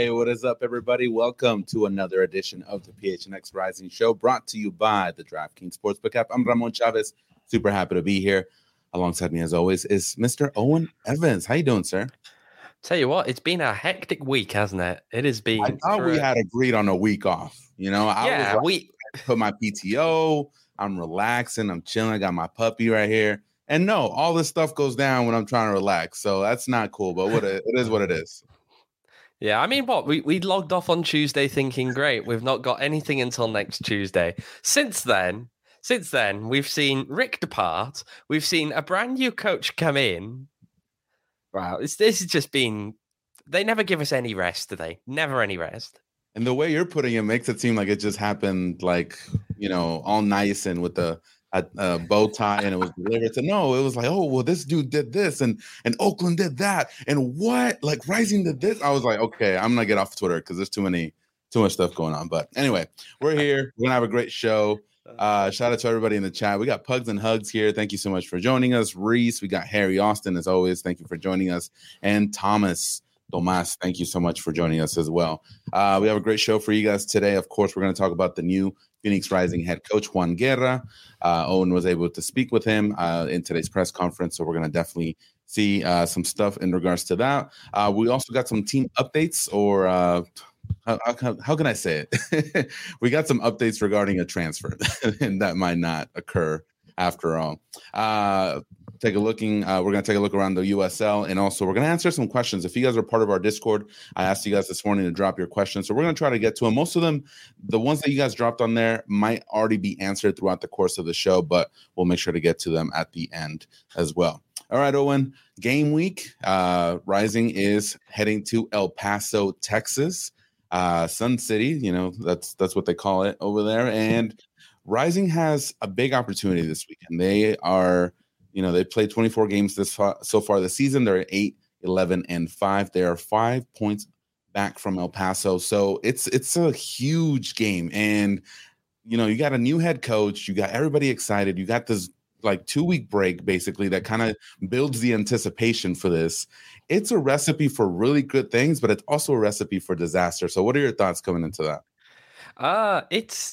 Hey, what is up, everybody? Welcome to another edition of the PHNX Rising Show, brought to you by the DraftKings Sportsbook app. I'm Ramon Chavez. Super happy to be here. Alongside me, as always, is Mr. Owen Evans. How you doing, sir? Tell you what, it's been a hectic week, hasn't it? It has been. I thought we had agreed on a week off. I put my PTO. I'm relaxing. I'm chilling. I got my puppy right here. And no, all this stuff goes down when I'm trying to relax. So that's not cool, but it is what it is. Yeah, I mean, we logged off on Tuesday thinking, great, we've not got anything until next Tuesday. Since then, we've seen Rick depart. We've seen a brand new coach come in. Wow, this has just been. They never give us any rest, do they? Never any rest. And the way you're putting it makes it seem like it just happened, all nice and with a bow tie, and it was delivered. So no, it was like, oh well, this dude did this, and Oakland did that, and what? Like Rising did this. I was like, okay, I'm gonna get off Twitter because there's too much stuff going on. But anyway, we're here. We're gonna have a great show. Shout out to everybody in the chat. We got Pugs and Hugs here. Thank you so much for joining us. Reese, we got Harry Austin as always. Thank you for joining us, and Tomas, thank you so much for joining us as well. We have a great show for you guys today. Of course, we're going to talk about the new Phoenix Rising head coach, Juan Guerra. Owen was able to speak with him in today's press conference, so we're going to definitely see some stuff in regards to that. We also got some team updates, or how can I say it? We got some updates regarding a transfer, and that might not occur after all. We're going to take a look around the USL, and also we're going to answer some questions. If you guys are part of our Discord, I asked you guys this morning to drop your questions, so we're going to try to get to them. Most of them, the ones that you guys dropped on there, might already be answered throughout the course of the show, but we'll make sure to get to them at the end as well. All right, Owen, game week. Rising is heading to El Paso, Texas, Sun City. That's what they call it over there, and Rising has a big opportunity this weekend. They are, they played 24 games so far this season. They're 8-11-5. They are 5 points back from El Paso. So it's a huge game. And, you got a new head coach. You got everybody excited. You got this 2-week break, basically, that kind of builds the anticipation for this. It's a recipe for really good things, but it's also a recipe for disaster. So what are your thoughts coming into that?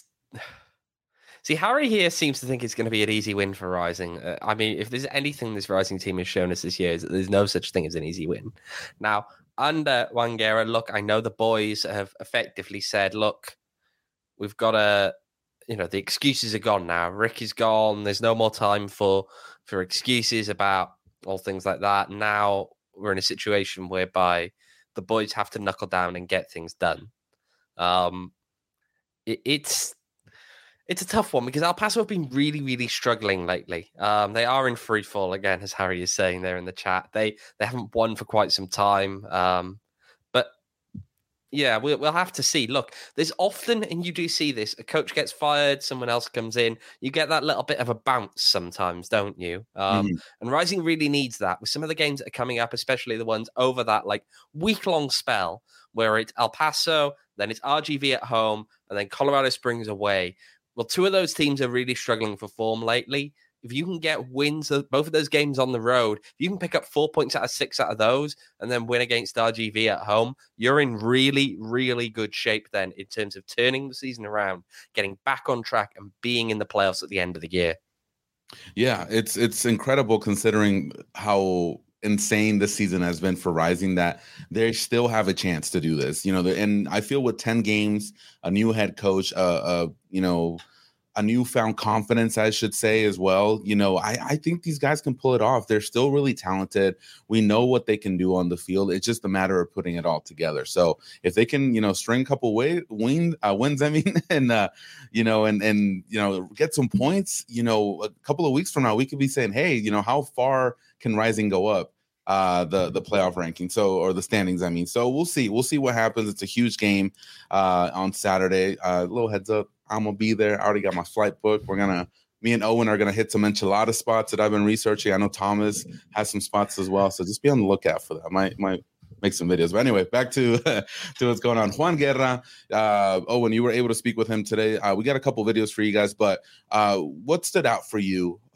See, Harry here seems to think it's going to be an easy win for Rising. I mean, if there's anything this Rising team has shown us this year, is that there's no such thing as an easy win. Now, under Juan Guerra, look, I know the boys have effectively said, look, we've got to, the excuses are gone now. Rick is gone. There's no more time for excuses about all things like that. Now we're in a situation whereby the boys have to knuckle down and get things done. It's a tough one because El Paso have been really, really struggling lately. They are in free fall again, as Harry is saying there in the chat. They haven't won for quite some time. But yeah, we'll have to see. Look, there's often, and you do see this, a coach gets fired, someone else comes in. You get that little bit of a bounce sometimes, don't you? And Rising really needs that with some of the games that are coming up, especially the ones over that week-long spell where it's El Paso, then it's RGV at home, and then Colorado Springs away. Well, two of those teams are really struggling for form lately. If you can get wins of both of those games on the road, if you can pick up 4 points out of 6 out of those and then win against RGV at home, you're in really, really good shape then in terms of turning the season around, getting back on track and being in the playoffs at the end of the year. Yeah, it's incredible considering how insane this season has been for Rising that they still have a chance to do this. And I feel with 10 games, a new head coach, a newfound confidence, I should say, as well. I think these guys can pull it off. They're still really talented. We know what they can do on the field. It's just a matter of putting it all together. So if they can, string a couple wins, and get some points, a couple of weeks from now, we could be saying, hey, how far can Rising go up the playoff ranking, or the standings, I mean. So we'll see what happens. It's a huge game on Saturday. Little heads up, I'm gonna be there. I already got my flight booked. Me and Owen are gonna hit some enchilada spots that I've been researching. I know Thomas has some spots as well, so just be on the lookout for that. I might make some videos. But anyway, back to what's going on. Juan Guerra, Owen, you were able to speak with him today. We got a couple videos for you guys, but what stood out for you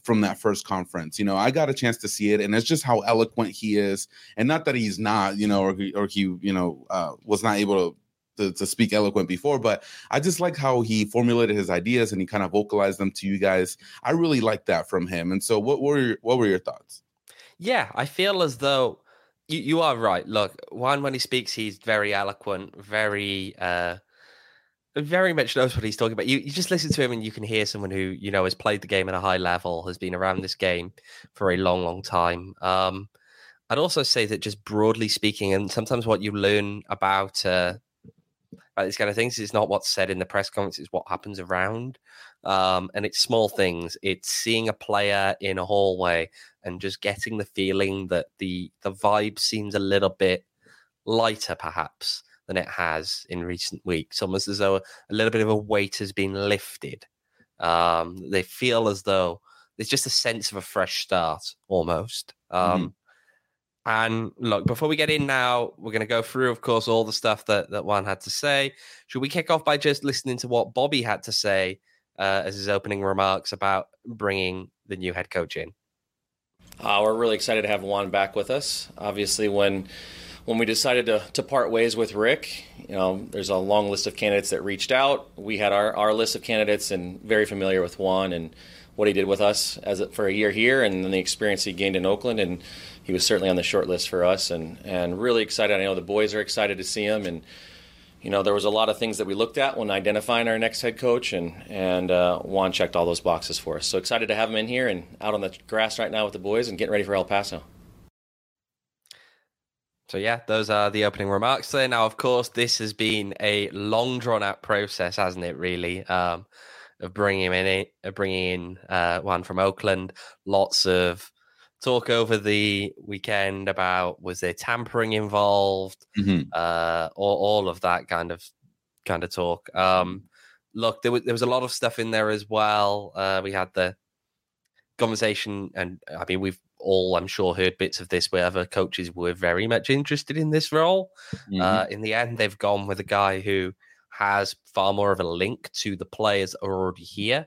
from that first conference. I got a chance to see it, and it's just how eloquent he is. And not that he's not, or he was not able to speak eloquent before, but I just like how he formulated his ideas and he kind of vocalized them to you guys. I really like that from him. And so what were your thoughts? Yeah, I feel as though you are right. Look, Juan, when he speaks, he's very eloquent, very much knows what he's talking about. You just listen to him and you can hear someone who, has played the game at a high level, has been around this game for a long, long time. I'd also say that just broadly speaking, and sometimes what you learn about these kind of things is not what's said in the press conference, it's what happens around. And it's small things. It's seeing a player in a hallway and just getting the feeling that the vibe seems a little bit lighter, perhaps, than it has in recent weeks. Almost as though a little bit of a weight has been lifted. They feel as though there's just a sense of a fresh start, almost. And look, before we get in now, we're going to go through, of course, all the stuff that Juan had to say. Should we kick off by just listening to what Bobby had to say as his opening remarks about bringing the new head coach in? We're really excited to have Juan back with us. Obviously, when we decided to part ways with Rick, there's a long list of candidates that reached out. We had our list of candidates and very familiar with Juan and what he did with us for a year here and then the experience he gained in Oakland. And he was certainly on the short list for us and really excited. I know the boys are excited to see him. And, there was a lot of things that we looked at when identifying our next head coach, and Juan checked all those boxes for us. So excited to have him in here and out on the grass right now with the boys and getting ready for El Paso. So, yeah, those are the opening remarks there. Now, of course, this has been a long, drawn-out process, hasn't it, really, of bringing in Juan from Oakland. Lots of talk over the weekend about, was there tampering involved, all of that kind of talk. Look, there was a lot of stuff in there as well. We had the conversation, and I mean, we've all, I'm sure, heard bits of this where other coaches were very much interested in this role. In the end, they've gone with a guy who has far more of a link to the players already here.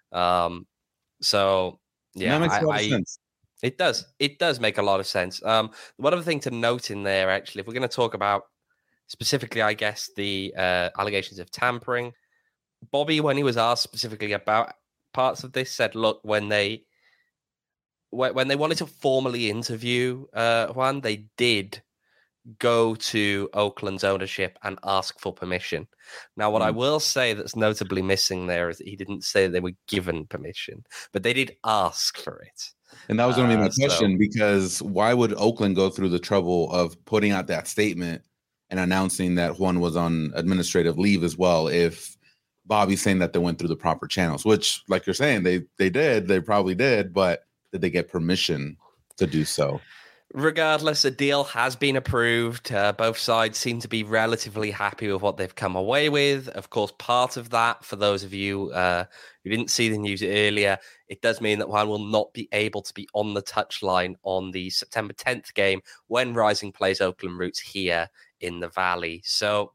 So, yeah, that makes a lot of sense. It does make a lot of sense. One other thing to note in there, actually, if we're going to talk about specifically, I guess, the allegations of tampering, Bobby, when he was asked specifically about parts of this, said, look, when they wanted to formally interview Juan, they did go to Oakland's ownership and ask for permission. Now, what I will say that's notably missing there is that he didn't say they were given permission, but they did ask for it. And that was going to be my question, because why would Oakland go through the trouble of putting out that statement and announcing that Juan was on administrative leave as well if Bobby's saying that they went through the proper channels, which, like you're saying, they probably did, but did they get permission to do so? Regardless, a deal has been approved. Both sides seem to be relatively happy with what they've come away with. Of course, part of that, for those of you who didn't see the news earlier, it does mean that Juan will not be able to be on the touchline on the September 10th game when Rising plays Oakland Roots here in the Valley. So,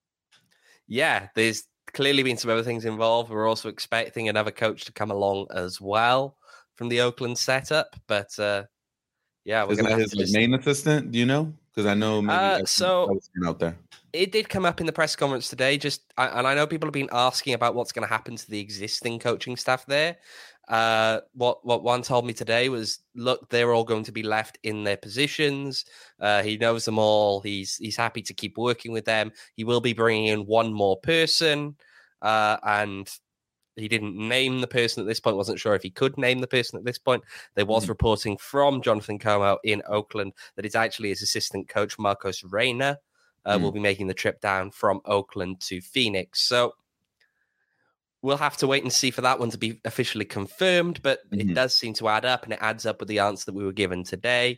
yeah, there's clearly been some other things involved. We're also expecting another coach to come along as well from the Oakland setup, but yeah, we're going to have his main assistant. Do you know? Because I know maybe so out there. It did come up in the press conference today. And I know people have been asking about what's going to happen to the existing coaching staff there. What Juan told me today was, look, they're all going to be left in their positions. He knows them all. He's happy to keep working with them. He will be bringing in one more person, and he didn't name the person at this point. Wasn't sure if he could name the person at this point. There was reporting from Jonathan Como in Oakland that it's actually his assistant coach, Marcos Reyna, will be making the trip down from Oakland to Phoenix. So we'll have to wait and see for that one to be officially confirmed, but it does seem to add up, and it adds up with the answer that we were given today.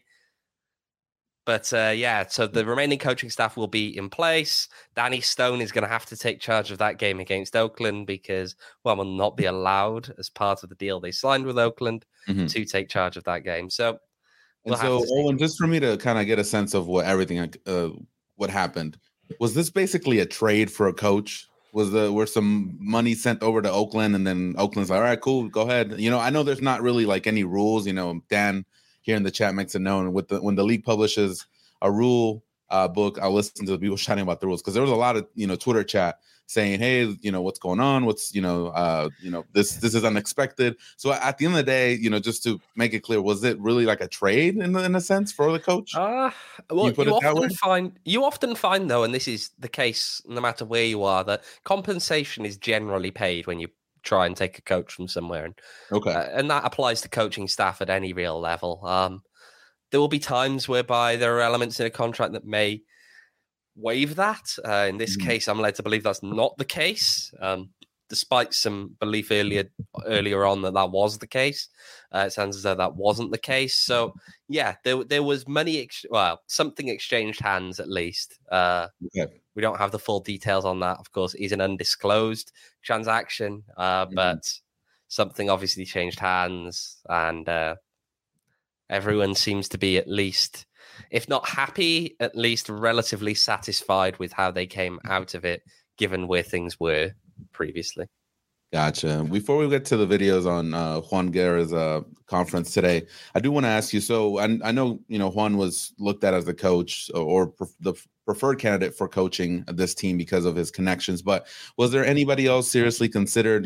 But yeah, so the remaining coaching staff will be in place. Danny Stone is going to have to take charge of that game against Oakland because, well, will not be allowed as part of the deal they signed with Oakland to take charge of that game. So, Owen, just for me to kind of get a sense of what everything, what happened, was this basically a trade for a coach? were some money sent over to Oakland, and then Oakland's like, all right, cool, go ahead. I know there's not really like any rules. Dan here in the chat makes it known when the league publishes a rule book, I'll listen to the people chatting about the rules, because there was a lot of Twitter chat saying, hey, what's going on? What's this is unexpected. So at the end of the day, just to make it clear, was it really like a trade in a sense for the coach? Well, you often find though, and this is the case no matter where you are, that compensation is generally paid when you try and take a coach from somewhere, and that applies to coaching staff at any real level. There will be times whereby there are elements in a contract that may waive that. In this case, I'm led to believe that's not the case, despite some belief earlier on that was the case. It sounds as though that wasn't the case. So, yeah, there was money, something exchanged hands at least. We don't have the full details on that. Of course, it is an undisclosed transaction, but something obviously changed hands, and everyone seems to be at least, if not happy, at least relatively satisfied with how they came out of it, given where things were previously. Gotcha. Before we get to the videos on Juan Guerra's conference today, I do want to ask you, so I know, Juan was looked at as the coach or the preferred candidate for coaching this team because of his connections, but was there anybody else seriously considered,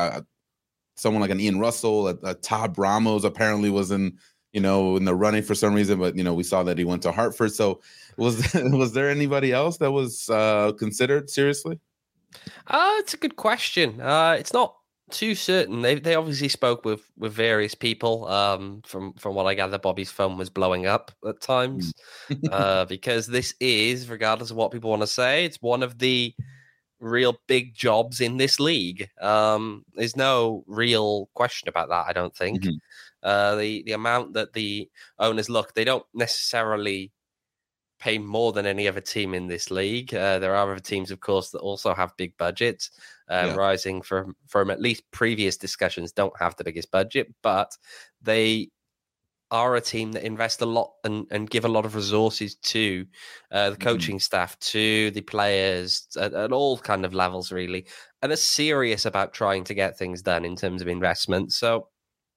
someone like an Ian Russell, a Todd Ramos apparently was in the running for some reason, but we saw that he went to Hartford. So was there anybody else that was considered seriously? It's a good question. It's not too certain. They obviously spoke with various people. From what I gather, Bobby's phone was blowing up at times because this is, regardless of what people want to say, it's one of the real big jobs in this league. There's no real question about that, I don't think. The amount that the owners they don't necessarily pay more than any other team in this league. There are other teams, of course, that also have big budgets. Rising from at least previous discussions don't have the biggest budget, but they are a team that invest a lot and give a lot of resources to the coaching staff, to the players at all kind of levels, really, and are serious about trying to get things done in terms of investment. So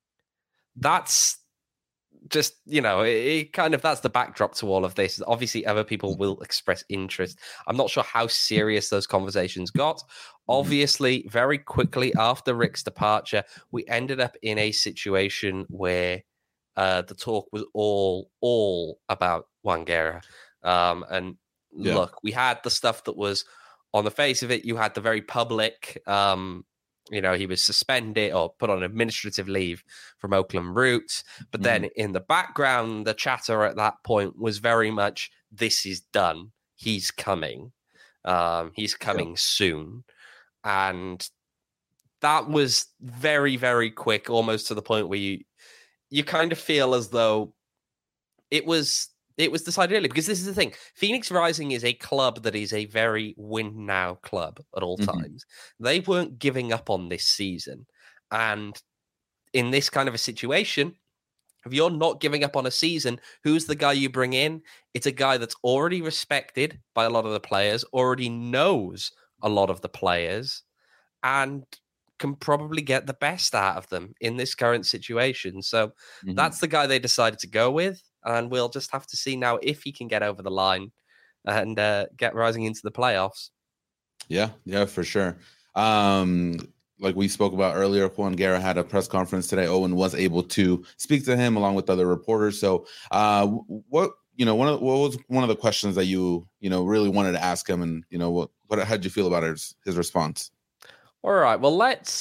that's just, that's the backdrop to all of this. Obviously, other people will express interest. I'm not sure how serious those conversations got. Obviously, very quickly after Rick's departure, we ended up in a situation where the talk was all about Juan Guerra. Look, we had the stuff that was on the face of it. You had the very public, he was suspended or put on administrative leave from Oakland Roots. But then in the background, the chatter at that point was very much, this is done. He's coming. He's coming soon. And that was very, very quick, almost to the point where you kind of feel as though it was decided early, because this is the thing. Phoenix Rising is a club that is a very win now club at all times. They weren't giving up on this season. And in this kind of a situation, if you're not giving up on a season, who's the guy you bring in? It's a guy that's already respected by a lot of the players, already knows a lot of the players, and can probably get the best out of them in this current situation. So that's the guy they decided to go with. And we'll just have to see now if he can get over the line and get Rising into the playoffs. Yeah, for sure. Like we spoke about earlier, Juan Guerra had a press conference today. Owen was able to speak to him along with other reporters. So what was one of the questions that you really wanted to ask him, and how did you feel about his response? All right, well,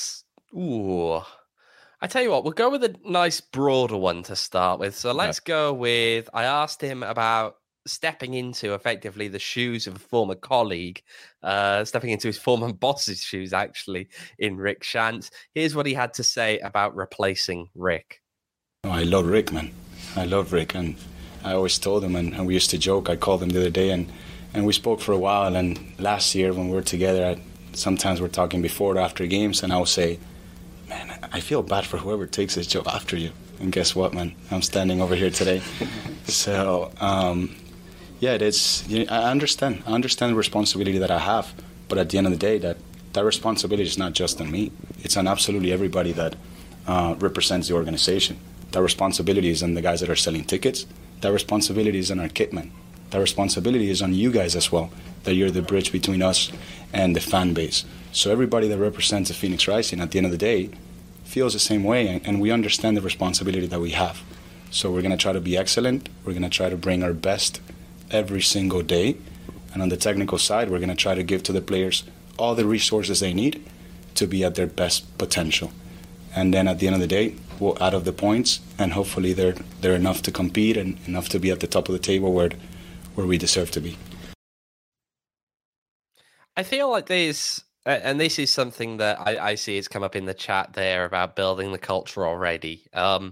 I tell you what, we'll go with a nice broader one to start with. So let's go with, I asked him about stepping into effectively the shoes of a former colleague, stepping into his former boss's shoes, actually, in Rick Schantz. Here's what he had to say about replacing Rick. I love Rick, man. I love Rick, and I always told him, and we used to joke. I called him the other day, and we spoke for a while. And last year when we were together, sometimes we're talking before or after games, and I'll say, man, I feel bad for whoever takes this job after you. And guess what, man? I'm standing over here today. So, it is. I understand the responsibility that I have, but at the end of the day, that that responsibility is not just on me. It's on absolutely everybody that represents the organization. That responsibility is on the guys that are selling tickets. That responsibility is on our kitmen. That responsibility is on you guys as well, that you're the bridge between us and the fan base. So everybody that represents the Phoenix Rising at the end of the day feels the same way, and we understand the responsibility that we have. So we're going to try to be excellent. We're going to try to bring our best every single day. And on the technical side, we're going to try to give to the players all the resources they need to be at their best potential. And then at the end of the day, we'll add up the points, and hopefully they're enough to compete and enough to be at the top of the table where we deserve to be. I feel like there's, and this is something that I see has come up in the chat there about building the culture already.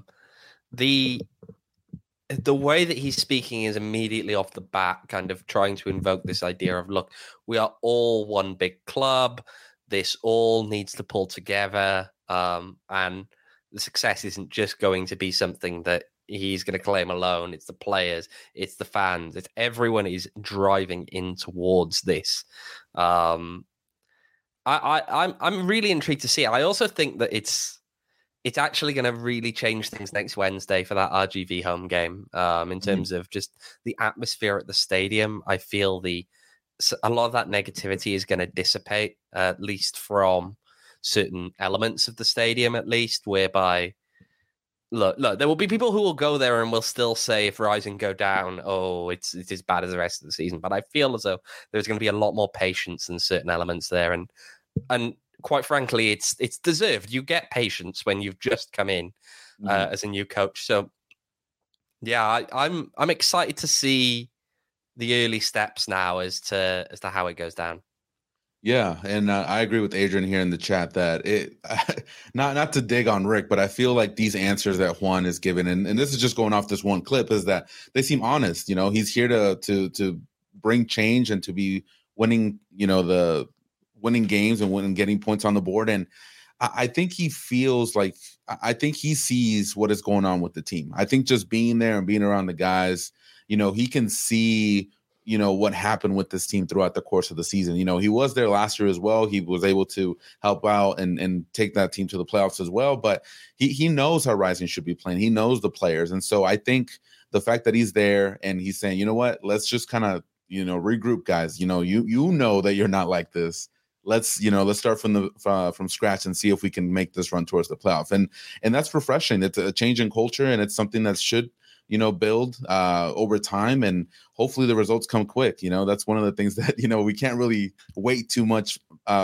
The way that he's speaking is immediately off the bat kind of trying to invoke this idea of, look, we are all one big club. This all needs to pull together. And the success isn't just going to be something that he's going to claim alone. It's the players, it's the fans, it's everyone is driving in towards this. I'm really intrigued to see it. I also think that it's actually going to really change things next Wednesday for that RGV home game. In terms of just the atmosphere at the stadium, I feel a lot of that negativity is going to dissipate, at least from certain elements of the stadium, at least, whereby look, there will be people who will go there and will still say, if Rising go down, oh, it's as bad as the rest of the season. But I feel as though there's going to be a lot more patience in certain elements there, and quite frankly, it's deserved. You get patience when you've just come in as a new coach. So yeah, I'm excited to see the early steps now as to how it goes down. Yeah, and I agree with Adrian here in the chat that it not to dig on Rick, but I feel like these answers that Juan is giving, and this is just going off this one clip, is that they seem honest. You know, he's here to bring change and to be winning, the winning games and getting points on the board. And I think he feels like, I think he sees what is going on with the team. I think just being there and being around the guys, he can see what happened with this team throughout the course of the season. He was there last year as well. He was able to help out and take that team to the playoffs as well. But he knows how Rising should be playing. He knows the players. And so I think the fact that he's there and he's saying, you know what, let's just kind of, regroup, guys. You know that you're not like this. Let's start from scratch and see if we can make this run towards the playoff. And that's refreshing. It's a change in culture, and it's something that should build over time, and hopefully the results come quick. That's one of the things that, we can't really wait too much,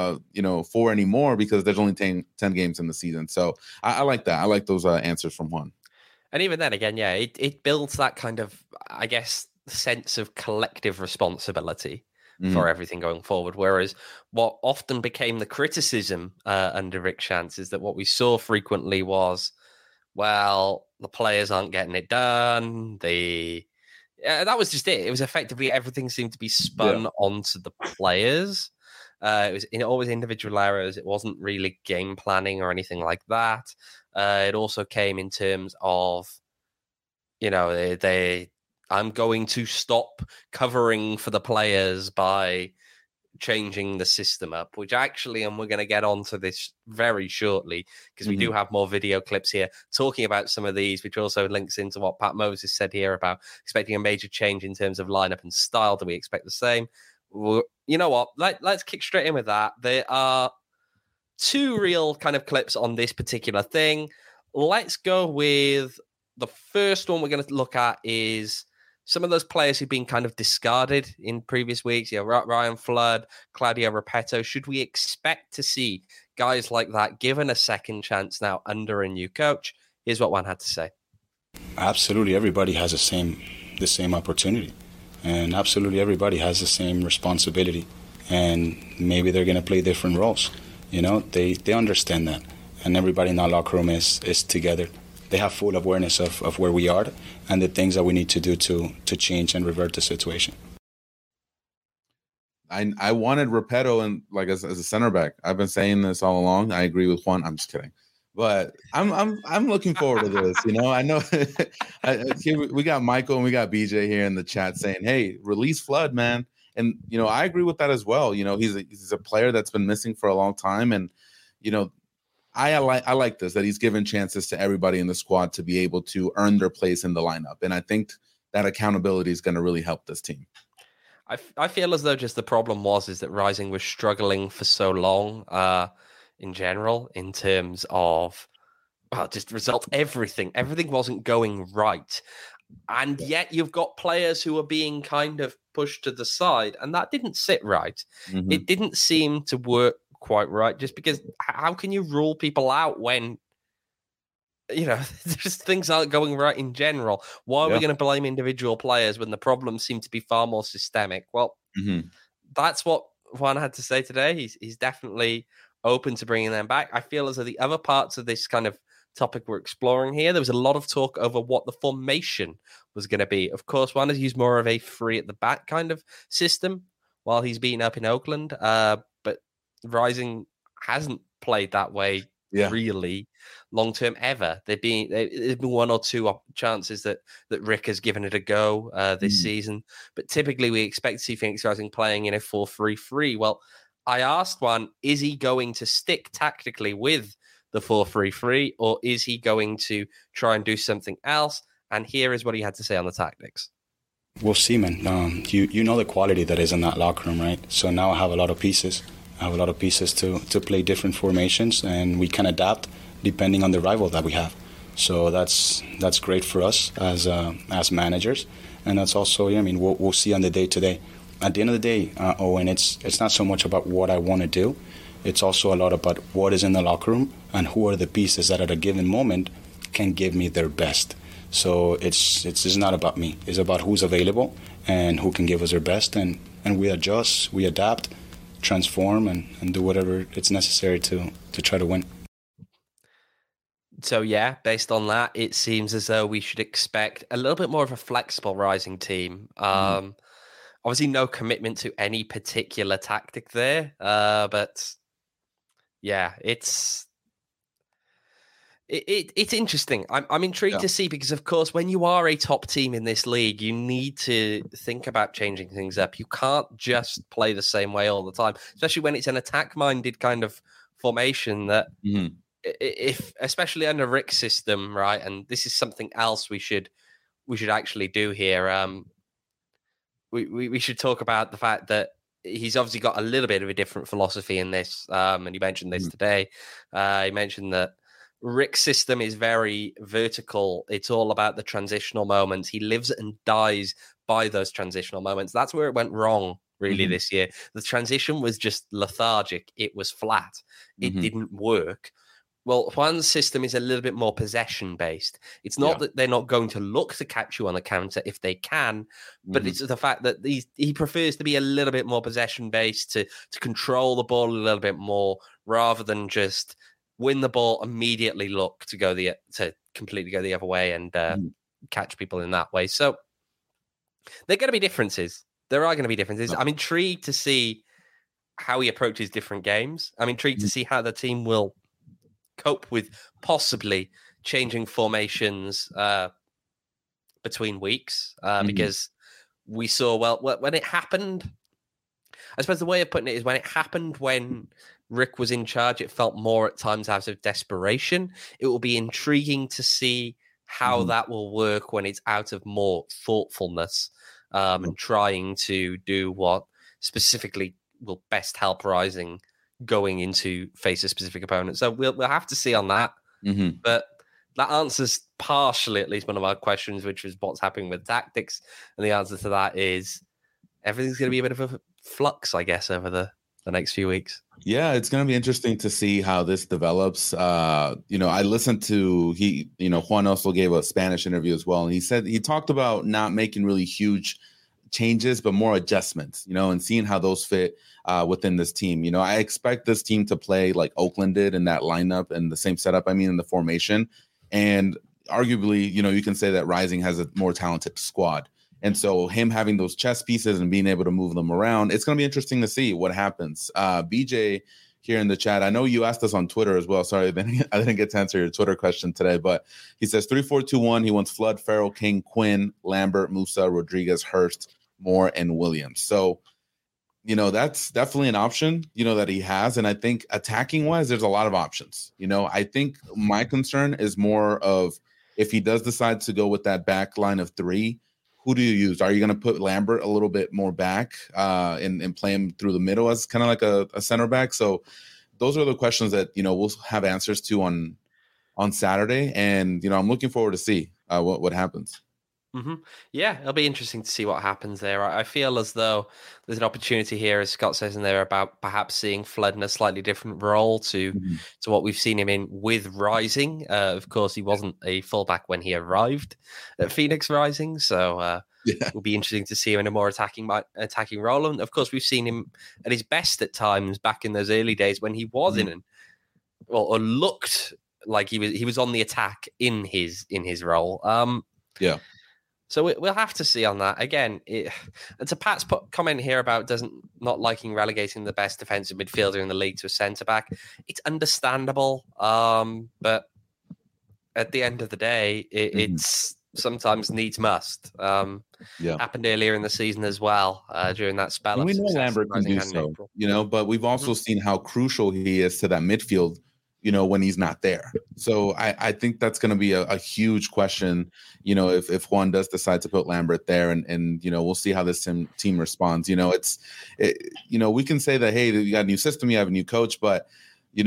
for anymore, because there's only 10 games in the season. So I like that. I like those answers from Juan. And even then again, yeah, it builds that kind of, I guess, sense of collective responsibility for everything going forward. Whereas what often became the criticism under Rick Schantz is that what we saw frequently was, well, the players aren't getting it done. That was just it. It was effectively everything seemed to be spun onto the players. It was always individual errors. It wasn't really game planning or anything like that. It also came in terms of, I'm going to stop covering for the players by changing the system up, which actually, and we're going to get onto this very shortly, because we do have more video clips here talking about some of these, which also links into what Pat Moses said here about expecting a major change in terms of lineup and style. Do we expect the same? Well, you know what? Let's kick straight in with that. There are two real kind of clips on this particular thing. Let's go with the first one we're going to look at is some of those players who've been kind of discarded in previous weeks. Ryan Flood, Claudio Repetto. Should we expect to see guys like that given a second chance now under a new coach? Here's what Juan had to say. Absolutely, everybody has the same opportunity, and absolutely everybody has the same responsibility. And maybe they're going to play different roles. They understand that, and everybody in our locker room is together. They have full awareness of where we are and the things that we need to do to change and revert the situation. I wanted Repetto and as a center back. I've been saying this all along. I agree with Juan. I'm just kidding, but I'm looking forward to this. I know we got Michael and we got BJ here in the chat saying, "Hey, release Flood, man." And, I agree with that as well. He's a player that's been missing for a long time. And, I like this, that he's given chances to everybody in the squad to be able to earn their place in the lineup. And I think that accountability is going to really help this team. I feel as though just the problem is that Rising was struggling for so long in general in terms of just result everything. Everything wasn't going right. And yet you've got players who are being kind of pushed to the side, and that didn't sit right. Mm-hmm. It didn't seem to work quite right, just because how can you rule people out when just things aren't going right in general? Why are we going to blame individual players when the problems seem to be far more systemic? Well, that's what Juan had to say today. He's definitely open to bringing them back. I feel as though the other parts of this kind of topic we're exploring here, there was a lot of talk over what the formation was going to be. Of course, Juan has used more of a free at the back kind of system while he's been up in Oakland, but Rising hasn't played that way really long term ever. There's been one or two chances that Rick has given it a go this season, but typically we expect to see Phoenix Rising playing in a 4-3-3. Well, I asked one, is he going to stick tactically with the 4-3-3, or is he going to try and do something else? And here is what he had to say on the tactics. We'll see, man. You know the quality that is in that locker room, right? So now I have a lot of pieces. To play different formations, and we can adapt depending on the rival that we have. So that's great for us as managers, and that's also we'll see on the day to day. At the end of the day, Owen, it's not so much about what I want to do. It's also a lot about what is in the locker room and who are the pieces that at a given moment can give me their best. So it's not about me. It's about who's available and who can give us their best, and we adjust, we adapt, transform, and do whatever it's necessary to try to win. So based on that, it seems as though we should expect a little bit more of a flexible Rising team. Obviously no commitment to any particular tactic there, but it's interesting. I'm intrigued to see, because of course when you are a top team in this league, you need to think about changing things up. You can't just play the same way all the time, especially when it's an attack-minded kind of formation that if especially under Rick's system, right? And this is something else we should actually do here. We should talk about the fact that he's obviously got a little bit of a different philosophy in this, and you mentioned this today. He mentioned that Rick's system is very vertical. It's all about the transitional moments. He lives and dies by those transitional moments. That's where it went wrong, really, this year. The transition was just lethargic. It was flat. It didn't work. Well, Juan's system is a little bit more possession-based. It's not that they're not going to look to catch you on the counter if they can, but it's the fact that he prefers to be a little bit more possession-based, to control the ball a little bit more, rather than just win the ball, immediately look to completely go the other way and catch people in that way. So there are going to be differences. There are going to be differences. I'm intrigued to see how he approaches different games. I'm intrigued to see how the team will cope with possibly changing formations between weeks, because we saw, when it happened, I suppose the way of putting it is, when it happened when Rick was in charge, it felt more at times out of desperation. It will be intriguing to see how that will work when it's out of more thoughtfulness and trying to do what specifically will best help Rising going into face a specific opponent. So we'll have to see on that. But that answers partially, at least, one of our questions, which is what's happening with tactics. And the answer to that is everything's going to be a bit of a flux, I guess, over the next few weeks. Yeah, it's going to be interesting to see how this develops. I listened to Juan also gave a Spanish interview as well, and he talked about not making really huge changes, but more adjustments, and seeing how those fit within this team. I expect this team to play like Oakland did in that lineup and the same setup, in the formation. And arguably, you can say that Rising has a more talented squad. And so him having those chess pieces and being able to move them around, it's going to be interesting to see what happens. BJ here in the chat, I know you asked us on Twitter as well. Sorry, I didn't get to answer your Twitter question today, but he says 3-4-2-1. He wants Flood, Farrell, King, Quinn, Lambert, Musa, Rodriguez, Hurst, Moore, and Williams. So that's definitely an option, that he has. And I think attacking wise, there's a lot of options. I think my concern is more of if he does decide to go with that back line of three, who do you use? Are you going to put Lambert a little bit more back and play him through the middle as kind of like a center back? So those are the questions that, we'll have answers to on Saturday. And, I'm looking forward to see what happens. Mm-hmm. Yeah, it'll be interesting to see what happens there. I feel as though there's an opportunity here, as Scott says in there, about perhaps seeing Flood in a slightly different role to what we've seen him in with Rising. Of course, he wasn't a fullback when he arrived at Phoenix Rising, so it'll be interesting to see him in a more attacking role. And of course, we've seen him at his best at times back in those early days when he was or looked like he was on the attack in his role. So we'll have to see on that. Again, and to Pat's comment here about not liking relegating the best defensive midfielder in the league to a centre-back, it's understandable. But at the end of the day, it's sometimes needs must. Happened earlier in the season as well, during that spell. And we know Lambert can do so, but we've also seen how crucial he is to that midfield, when he's not there. So I think that's going to be a huge question, if Juan does decide to put Lambert there, and we'll see how this team responds. We can say that, hey, you got a new system, you have a new coach, but I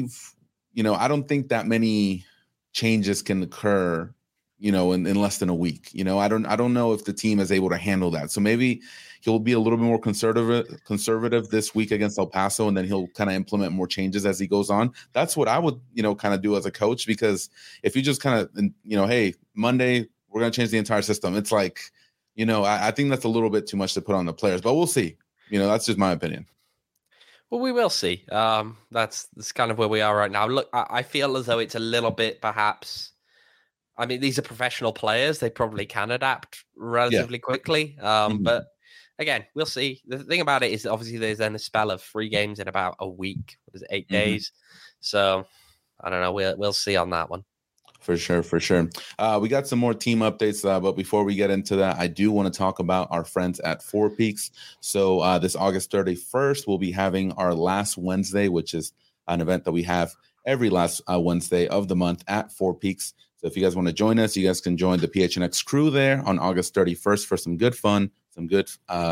don't think that many changes can occur, in less than a week. I don't know if the team is able to handle that. So maybe he'll be a little bit more conservative this week against El Paso, and then he'll kind of implement more changes as he goes on. That's what I would, kind of do as a coach, because if you just kind of, hey, Monday, we're going to change the entire system. It's like, I think that's a little bit too much to put on the players, but we'll see. That's just my opinion. Well, we will see. That's kind of where we are right now. Look, I feel as though it's a little bit perhaps... I mean, these are professional players. They probably can adapt relatively quickly. But again, we'll see. The thing about it is obviously there's then a spell of 3 games in about a week. What is it, 8 days? So I don't know. We'll see on that one. For sure. We got some more team updates, but before we get into that, I do want to talk about our friends at Four Peaks. So this August 31st, we'll be having our last Wednesday, which is an event that we have every last Wednesday of the month at Four Peaks. So if you guys want to join us, you guys can join the PHNX crew there on August 31st for some good fun, some good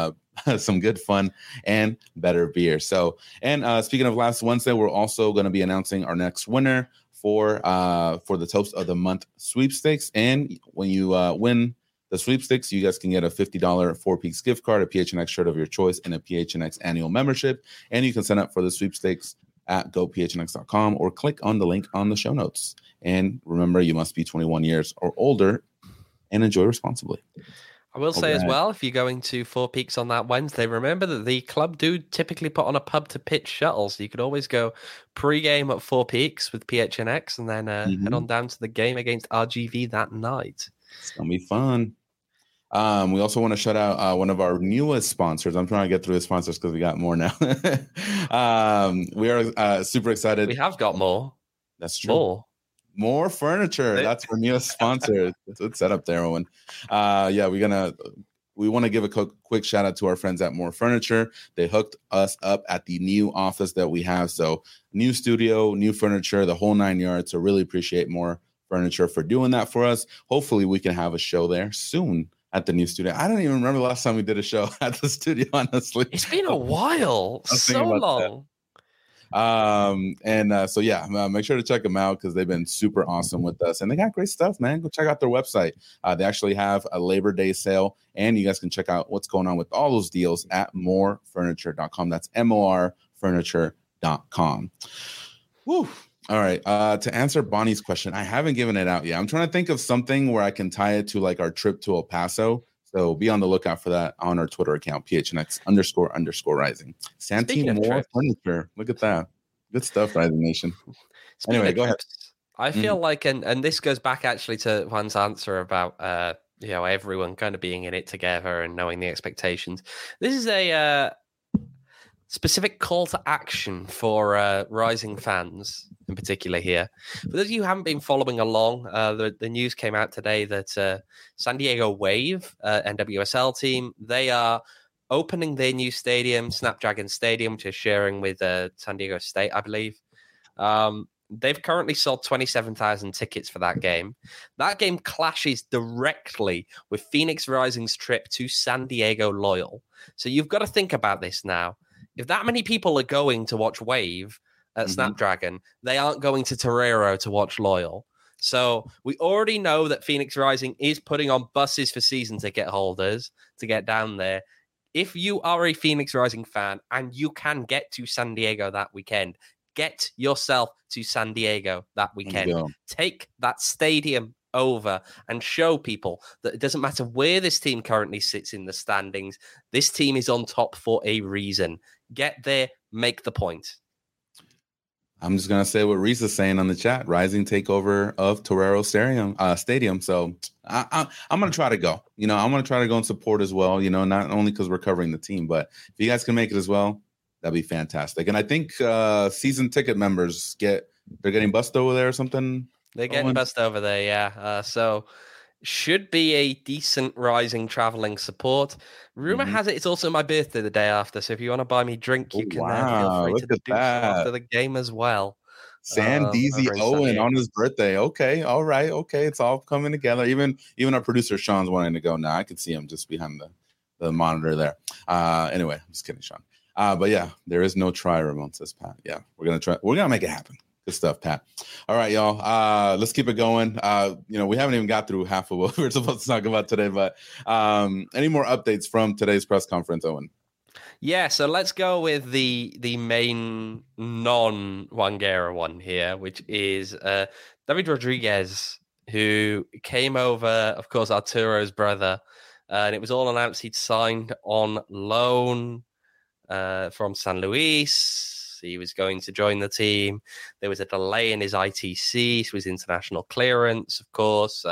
fun and better beer. So, and speaking of last Wednesday, we're also going to be announcing our next winner for the Toast of the Month sweepstakes. And when you win the sweepstakes, you guys can get a $50 Four Peaks gift card, a PHNX shirt of your choice, and a PHNX annual membership. And you can sign up for the sweepstakes at gophnx.com or click on the link on the show notes. And remember, you must be 21 years or older and enjoy responsibly. I will say as well, if you're going to Four Peaks on that Wednesday, remember that the club do typically put on a pub to pitch shuttle. So you could always go pre-game at Four Peaks with PHNX and then head on down to the game against RGV that night. It's going to be fun. We also want to shout out one of our newest sponsors. I'm trying to get through the sponsors because we got more now. We are super excited. We have got more. That's true. More furniture. That's our newest sponsor. It's set up there, Owen. We want to give a quick shout out to our friends at More Furniture. They hooked us up at the new office that we have. So new studio, new furniture, the whole 9 yards. So really appreciate More Furniture for doing that for us. Hopefully we can have a show there soon at the new studio. I don't even remember the last time we did a show at the studio, honestly. It's been a while. So long. Make sure to check them out because they've been super awesome with us and they got great stuff, man. Go check out their website. They actually have a Labor Day sale and you guys can check out what's going on with all those deals at morefurniture.com. That's morfurniture.com. Woo. All right. To answer Bonnie's question, I haven't given it out yet. I'm trying to think of something where I can tie it to like our trip to El Paso. So be on the lookout for that on our Twitter account, PHNX__rising. Santee More Furniture. Look at that. Good stuff, Rising Nation. Anyway, go ahead. I feel like, and this goes back actually to Juan's answer about, everyone kind of being in it together and knowing the expectations. This is a specific call to action for Rising fans in particular here. For those of you who haven't been following along, the news came out today that San Diego Wave, NWSL team, they are opening their new stadium, Snapdragon Stadium, which is sharing with San Diego State, I believe. They've currently sold 27,000 tickets for that game. That game clashes directly with Phoenix Rising's trip to San Diego Loyal. So you've got to think about this now. If that many people are going to watch Wave at Snapdragon, they aren't going to Torero to watch Loyal. So we already know that Phoenix Rising is putting on buses for season ticket holders to get down there. If you are a Phoenix Rising fan and you can get to San Diego that weekend, get yourself to San Diego that weekend. Take that stadium over and show people that it doesn't matter where this team currently sits in the standings. This team is on top for a reason. Get there, make the point. I'm just gonna say what Reese is saying on the chat. Rising takeover of Torero Stadium. So I'm gonna try to go. I'm gonna try to go and support as well. Not only because we're covering the team, but if you guys can make it as well, that'd be fantastic. And I think season ticket members they're getting bussed over there or something. They're getting bussed over there, yeah. So should be a decent Rising traveling support. Rumor has it it's also my birthday the day after. So if you want to buy me a drink, you can feel free to do so after the game as well. Sandeezy Owen on his birthday. Okay, all right, okay. It's all coming together. Even our producer Sean's wanting to go now. I can see him just behind the monitor there. Anyway, I'm just kidding, Sean. But yeah, there is no try, Ramon, says Pat. Yeah, we're gonna make it happen. Good stuff, Pat. All right, y'all. Let's keep it going. We haven't even got through half of what we're supposed to talk about today, but any more updates from today's press conference, Owen? Yeah, so let's go with the main non-Wangera one here, which is David Rodriguez, who came over, of course, Arturo's brother, and it was all announced he'd signed on loan from San Luis. He was going to join the team. There was a delay in his ITC, so his international clearance, of course.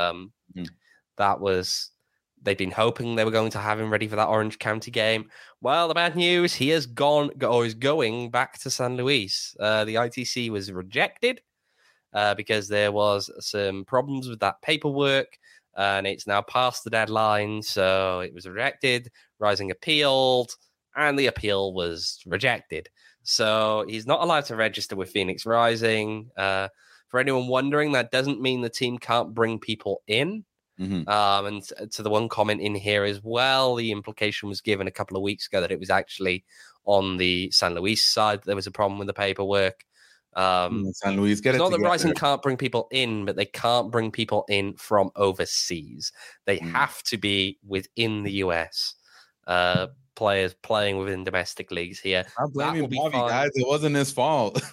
They'd been hoping they were going to have him ready for that Orange County game. Well, the bad news, he has is going back to San Luis. The ITC was rejected because there was some problems with that paperwork, and it's now past the deadline, so it was rejected. Rising appealed, and the appeal was rejected. So he's not allowed to register with Phoenix Rising. For anyone wondering, that doesn't mean the team can't bring people in. And to the one comment in here as well, the implication was given a couple of weeks ago that it was actually on the San Luis side that there was a problem with the paperwork. San Luis, get it not together. that Rising can't bring people in, but they can't bring people in from overseas. They have to be within the US. Players playing within domestic leagues here. I'm blaming Bobby, guys. It wasn't his fault.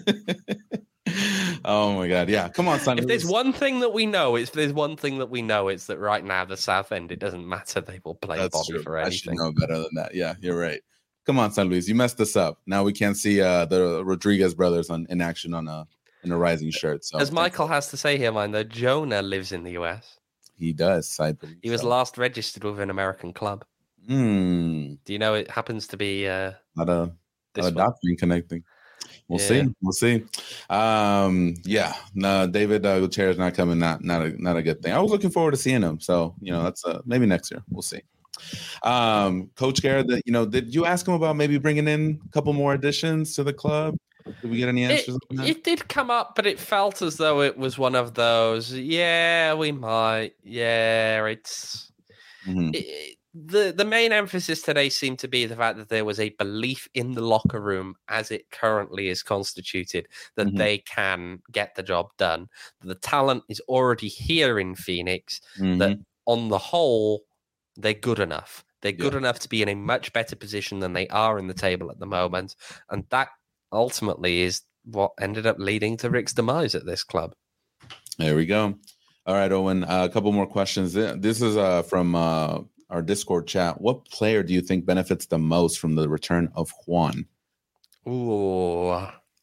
Oh my God! Yeah, come on, San Luis. If there's one thing that we know, it's that right now the South End, it doesn't matter. They will play Bobby for anything. I should know better than that. Yeah, you're right. Come on, San Luis. You messed this up. Now we can't see the Rodriguez brothers in action in a Rising shirt. So as Michael has to say here, mind though, Jonah lives in the US. He does. I believe he was last registered with an American club. Do you know it happens to be not a doctrine connecting? We'll see. Yeah, no, David Gutierrez not coming. Not a good thing. I was looking forward to seeing him. So that's maybe next year. We'll see. Coach Garrett, did you ask him about maybe bringing in a couple more additions to the club? Did we get any answers on that? It did come up, but it felt as though it was one of those. Yeah, we might. Yeah, it's. The main emphasis today seemed to be the fact that there was a belief in the locker room as it currently is constituted that they can get the job done. The talent is already here in Phoenix, that on the whole, they're good enough. They're good enough to be in a much better position than they are in the table at the moment. And that ultimately is what ended up leading to Rick's demise at this club. There we go. All right, Owen, a couple more questions. This is from... our Discord chat. What player do you think benefits the most from the return of Juan? Ooh.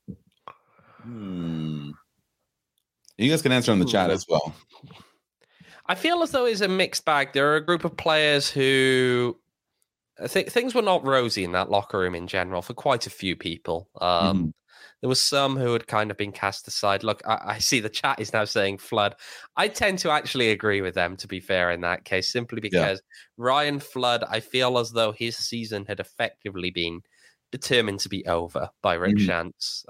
You guys can answer in the chat as well. I feel as though it's a mixed bag. There are a group of players who I think things were not rosy in that locker room in general for quite a few people. There was some who had kind of been cast aside. Look, I see the chat is now saying Flood. I tend to actually agree with them, to be fair, in that case, simply because Ryan Flood, I feel as though his season had effectively been determined to be over by Rick Schantz.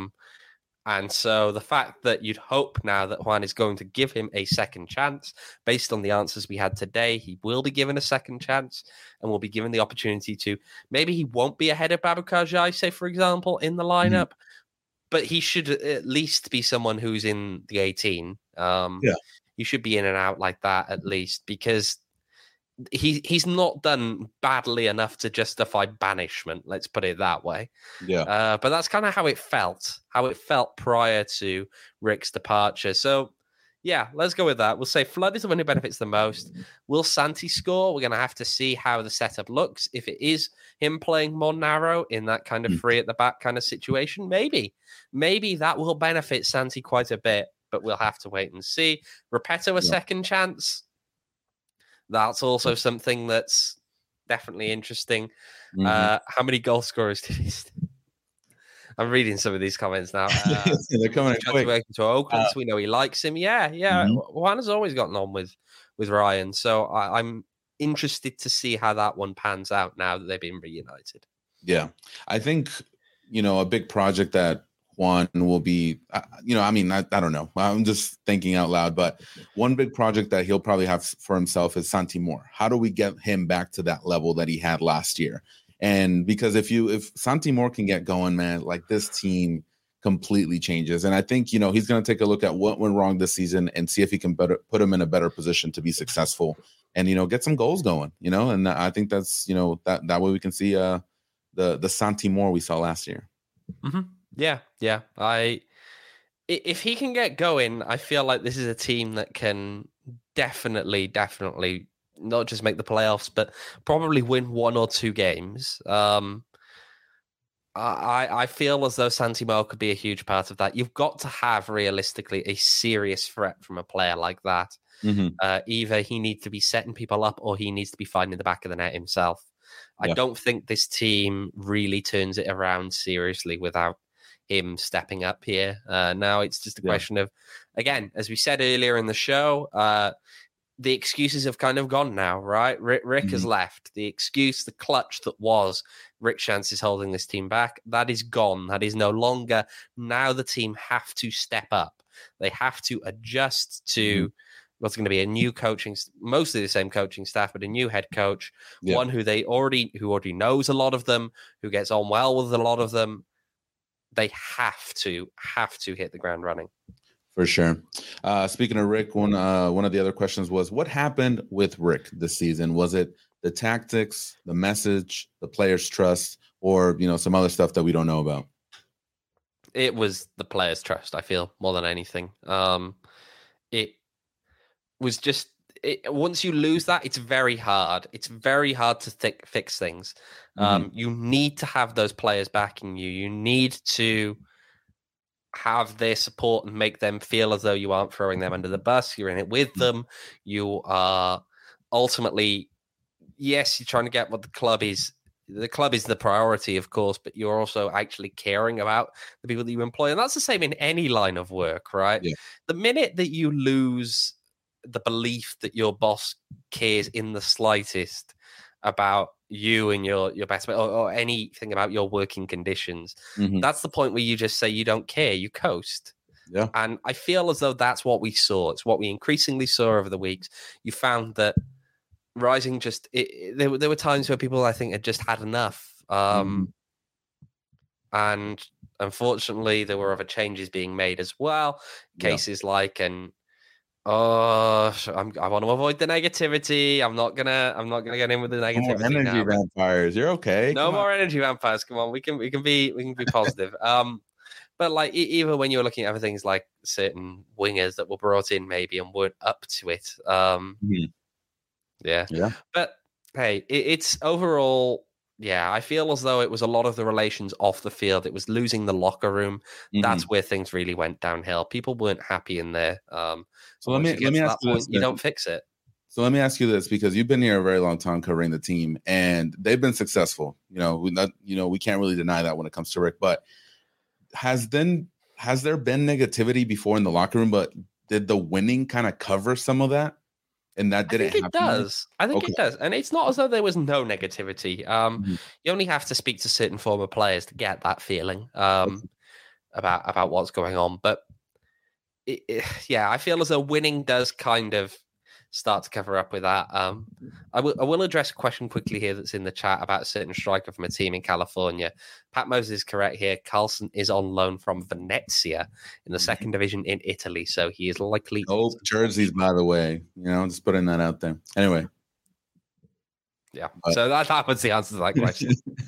And so the fact that you'd hope now that Juan is going to give him a second chance, based on the answers we had today, he will be given a second chance and will be given the opportunity to, maybe he won't be ahead of Babacar Jai, say, for example, in the lineup, but he should at least be someone who's in the 18. He should be in and out like that at least, because he's not done badly enough to justify banishment. Let's put it that way. But that's kind of how it felt prior to Rick's departure. So yeah, let's go with that. We'll say Flood is the one who benefits the most. Will Santi score? We're going to have to see how the setup looks. If it is him playing more narrow in that kind of free at the back kind of situation, maybe that will benefit Santi quite a bit, but we'll have to wait and see. Repetto a second chance. That's also something that's definitely interesting. How many goal scorers did he? I'm reading some of these comments now. They're coming quick. To Oakland, so we know he likes him. Juan has always gotten on with Ryan, so I'm interested to see how that one pans out now that they've been reunited. Yeah, I think a big project that Juan will be, I don't know. I'm just thinking out loud, but one big project that he'll probably have for himself is Santi Moore. How do we get him back to that level that he had last year? And because if Santi Moore can get going, man, like this team completely changes. And I think, he's going to take a look at what went wrong this season and see if he can put him in a better position to be successful and, get some goals going, and I think that's, that way we can see the Santi Moore we saw last year. Mm-hmm. Yeah. If he can get going, I feel like this is a team that can definitely not just make the playoffs, but probably win one or two games. I feel as though Santi Moore could be a huge part of that. You've got to have realistically a serious threat from a player like that. Either he needs to be setting people up or he needs to be finding the back of the net himself. I don't think this team really turns it around seriously without him stepping up here. Now it's just a question of, again, as we said earlier in the show, the excuses have kind of gone now, right? Rick has left. The excuse, the clutch that was Rick Schantz is holding this team back, that is gone. That is no longer. Now the team have to step up. They have to adjust to what's going to be a new coaching, mostly the same coaching staff, but a new head coach, one who already knows a lot of them, who gets on well with a lot of them. They have to hit the ground running. For sure. Speaking of Rick, one of the other questions was, what happened with Rick this season? Was it the tactics, the message, the players' trust, or some other stuff that we don't know about? It was the players' trust, I feel, more than anything. It was just once you lose that, it's very hard. It's very hard to fix things. You need to have those players backing you. You need to have their support and make them feel as though you aren't throwing them under the bus. You're in it with them. You are ultimately, yes, you're trying to get what the club is. The club is the priority, of course, but you're also actually caring about the people that you employ. And that's the same in any line of work, right? Yeah. The minute that you lose the belief that your boss cares in the slightest about you and your best mate or anything about your working conditions, that's the point where you just say you don't care, you coast. Yeah. And I feel as though that's what we saw. It's what we increasingly saw over the weeks. You found that Rising just there were times where people, I think, had just had enough. And unfortunately there were other changes being made as well. Cases like I want to avoid the negativity. I'm not gonna get in with the negativity. No more energy vampires. You're okay. No more energy vampires. Come on, we can be positive. But like even when you're looking at other things like certain wingers that were brought in maybe and weren't up to it. Yeah. But hey, it's overall. Yeah, I feel as though it was a lot of the relations off the field. It was losing the locker room. That's where things really went downhill. People weren't happy in there. So let me ask you this. You don't fix it. So let me ask you this, because you've been here a very long time covering the team, and they've been successful. We can't really deny that when it comes to Rick. But has there been negativity before in the locker room, but did the winning kind of cover some of that? And that didn't happen? It does. I think it does. And it's not as though there was no negativity. You only have to speak to certain former players to get that feeling about what's going on. But I feel as though winning does kind of start to cover up with that. I will address a question quickly here that's in the chat about a certain striker from a team in California. Pat Moses is correct here. Carlson is on loan from Venezia in the second division in Italy, so he is likely. Oh, jerseys, by the way. Just putting that out there. Anyway. Yeah, so that was the answer to that question.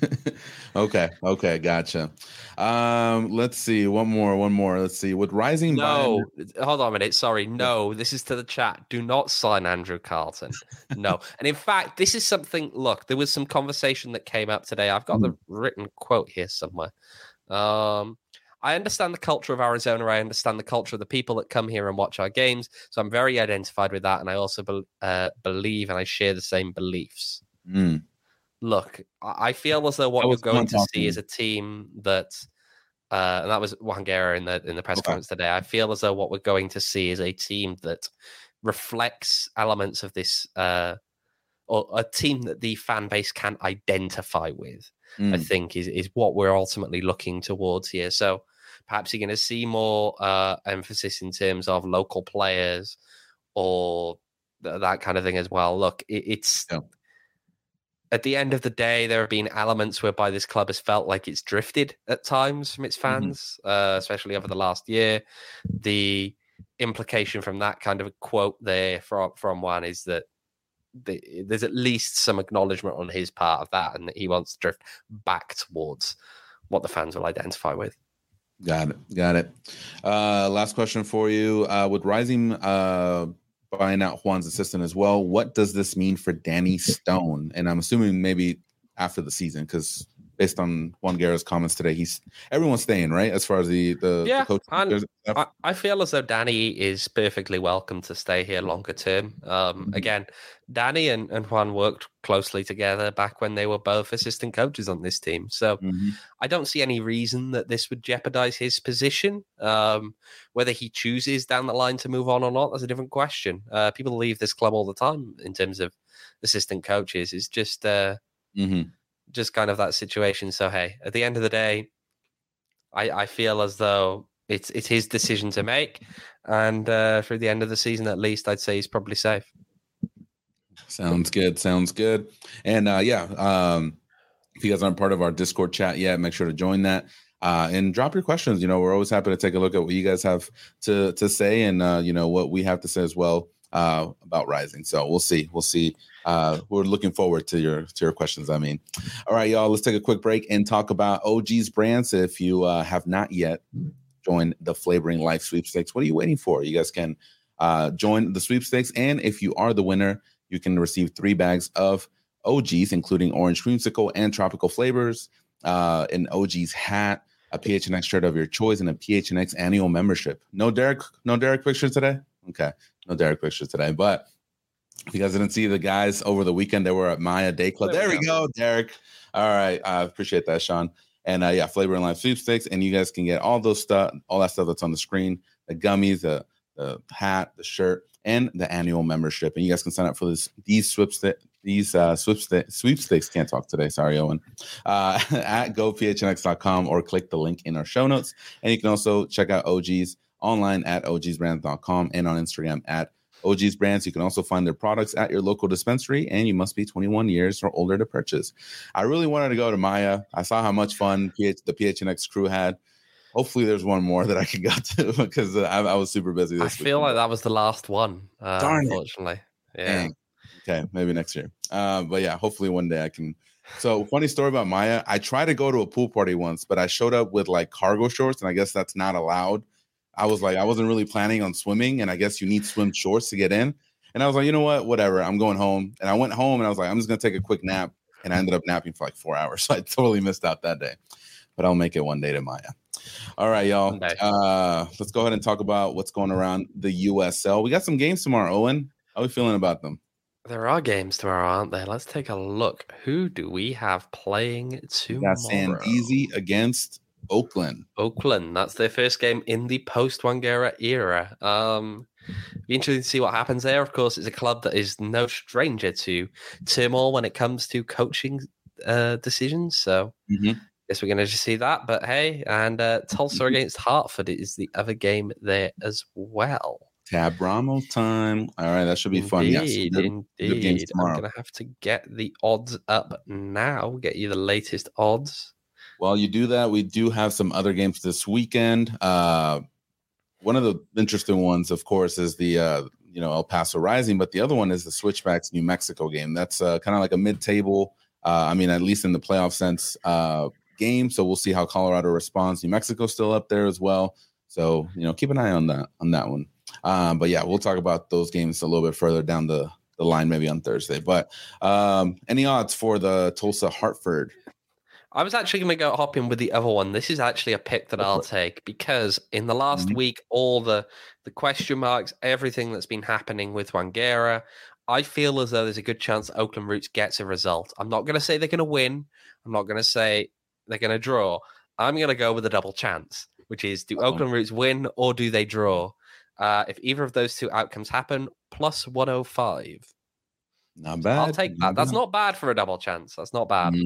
Okay, gotcha. Let's see, one more. Let's see. With rising, hold on a minute. Sorry, no. This is to the chat. Do not sign Andrew Carlton. No, and in fact, this is something. Look, there was some conversation that came up today. I've got the written quote here somewhere. I understand the culture of Arizona. I understand the culture of the people that come here and watch our games. So I'm very identified with that, and I also believe and I share the same beliefs. Look, I feel as though what you're going to see is a team that, and that was Juan Guerra in the press conference today. I feel as though what we're going to see is a team that reflects elements of this, or a team that the fan base can identify with. I think is what we're ultimately looking towards here. So perhaps you're going to see more emphasis in terms of local players or that kind of thing as well. Look, it's. Yeah. At the end of the day, there have been elements whereby this club has felt like it's drifted at times from its fans, especially over the last year. The implication from that kind of a quote there from Juan is that there's at least some acknowledgement on his part of that, and that he wants to drift back towards what the fans will identify with. Got it. Last question for you. With Rising buying out Juan's assistant as well, what does this mean for Danny Stone? And I'm assuming maybe after the season, because based on Juan Guerra's comments today, everyone's staying, right? As far as the coach. I feel as though Danny is perfectly welcome to stay here longer term. Again, Danny and Juan worked closely together back when they were both assistant coaches on this team. So I don't see any reason that this would jeopardize his position. Whether he chooses down the line to move on or not, that's a different question. People leave this club all the time in terms of assistant coaches. It's just kind of that situation. So, hey, at the end of the day, I feel as though it's his decision to make. And through the end of the season, at least, I'd say he's probably safe. Sounds good. And if you guys aren't part of our Discord chat yet, make sure to join that. And drop your questions. We're always happy to take a look at what you guys have to say and, what we have to say as well about Rising. So we'll see. We're looking forward to your questions. All right, y'all, let's take a quick break and talk about OG's Brands. If you have not yet joined the Flavoring Life Sweepstakes, what are you waiting for? You guys can join the sweepstakes. And if you are the winner, you can receive 3 bags of OGs, including orange creamsicle and tropical flavors, an OG's hat, a PHNX shirt of your choice, and a PHNX annual membership. No Derek picture today? Okay, no Derek picture today. But if you guys didn't see the guys over the weekend, they were at Maya Day Club. There we go, Derek. All right, I appreciate that, Sean. And Flavor and Life Sweepstakes, and you guys can get all that stuff that's on the screen: the gummies, the hat, the shirt, and the annual membership. And you guys can sign up for these sweepstakes. Can't talk today. Sorry, Owen. At gophnx.com or click the link in our show notes. And you can also check out OG's online at ogsbrands.com and on Instagram at OG's Brands. You can also find their products at your local dispensary, and you must be 21 years or older to purchase. I really wanted to go to Maya. I saw how much fun the PHNX crew had. Hopefully there's one more that I can go to because I was super busy this week. I feel like that was the last one, unfortunately. Yeah. Dang. Okay, maybe next year. But yeah, hopefully one day I can. So funny story about Maya. I tried to go to a pool party once, but I showed up with like cargo shorts, and I guess that's not allowed. I wasn't really planning on swimming, and I guess you need swim shorts to get in. And I was like, you know what, whatever. I'm going home. And I went home, and I was like, I'm just going to take a quick nap. And I ended up napping for like 4 hours. So I totally missed out that day. But I'll make it one day to Maya. All right, y'all. Let's go ahead and talk about what's going around the USL. We got some games tomorrow, Owen. How are we feeling about them? There are games tomorrow, aren't there? Let's take a look. Who do we have playing tomorrow? We got San Easy against Oakland. That's their first game in the post-Wangera era. Be interesting to see what happens there. Of course, it's a club that is no stranger to turmoil when it comes to coaching decisions. So guess we're going to just see that. But hey, and Tulsa against Hartford is the other game there as well. Tab Ramos time. All right, that should be fun. Yes, Indeed. I'm going to have to get the odds up now. Get you the latest odds. While you do that, we do have some other games this weekend. One of the interesting ones, of course, is the El Paso Rising, but the other one is the Switchbacks New Mexico game. That's kind of like a mid-table, at least in the playoff sense, game. So we'll see how Colorado responds. New Mexico's still up there as well. So, keep an eye on that one. But yeah, we'll talk about those games a little bit further down the line, maybe on Thursday. But any odds for the Tulsa Hartford? I was actually going to go hop in with the other one. This is actually a pick that I'll take because in the last week, all the question marks, everything that's been happening with Wangera, I feel as though there's a good chance Oakland Roots gets a result. I'm not going to say they're going to win. I'm not going to say they're going to draw. I'm going to go with a double chance, which is do Oakland Roots win or do they draw? If either of those two outcomes happen, plus 105. Not bad. I'll take that. That's not bad for a double chance. That's not bad.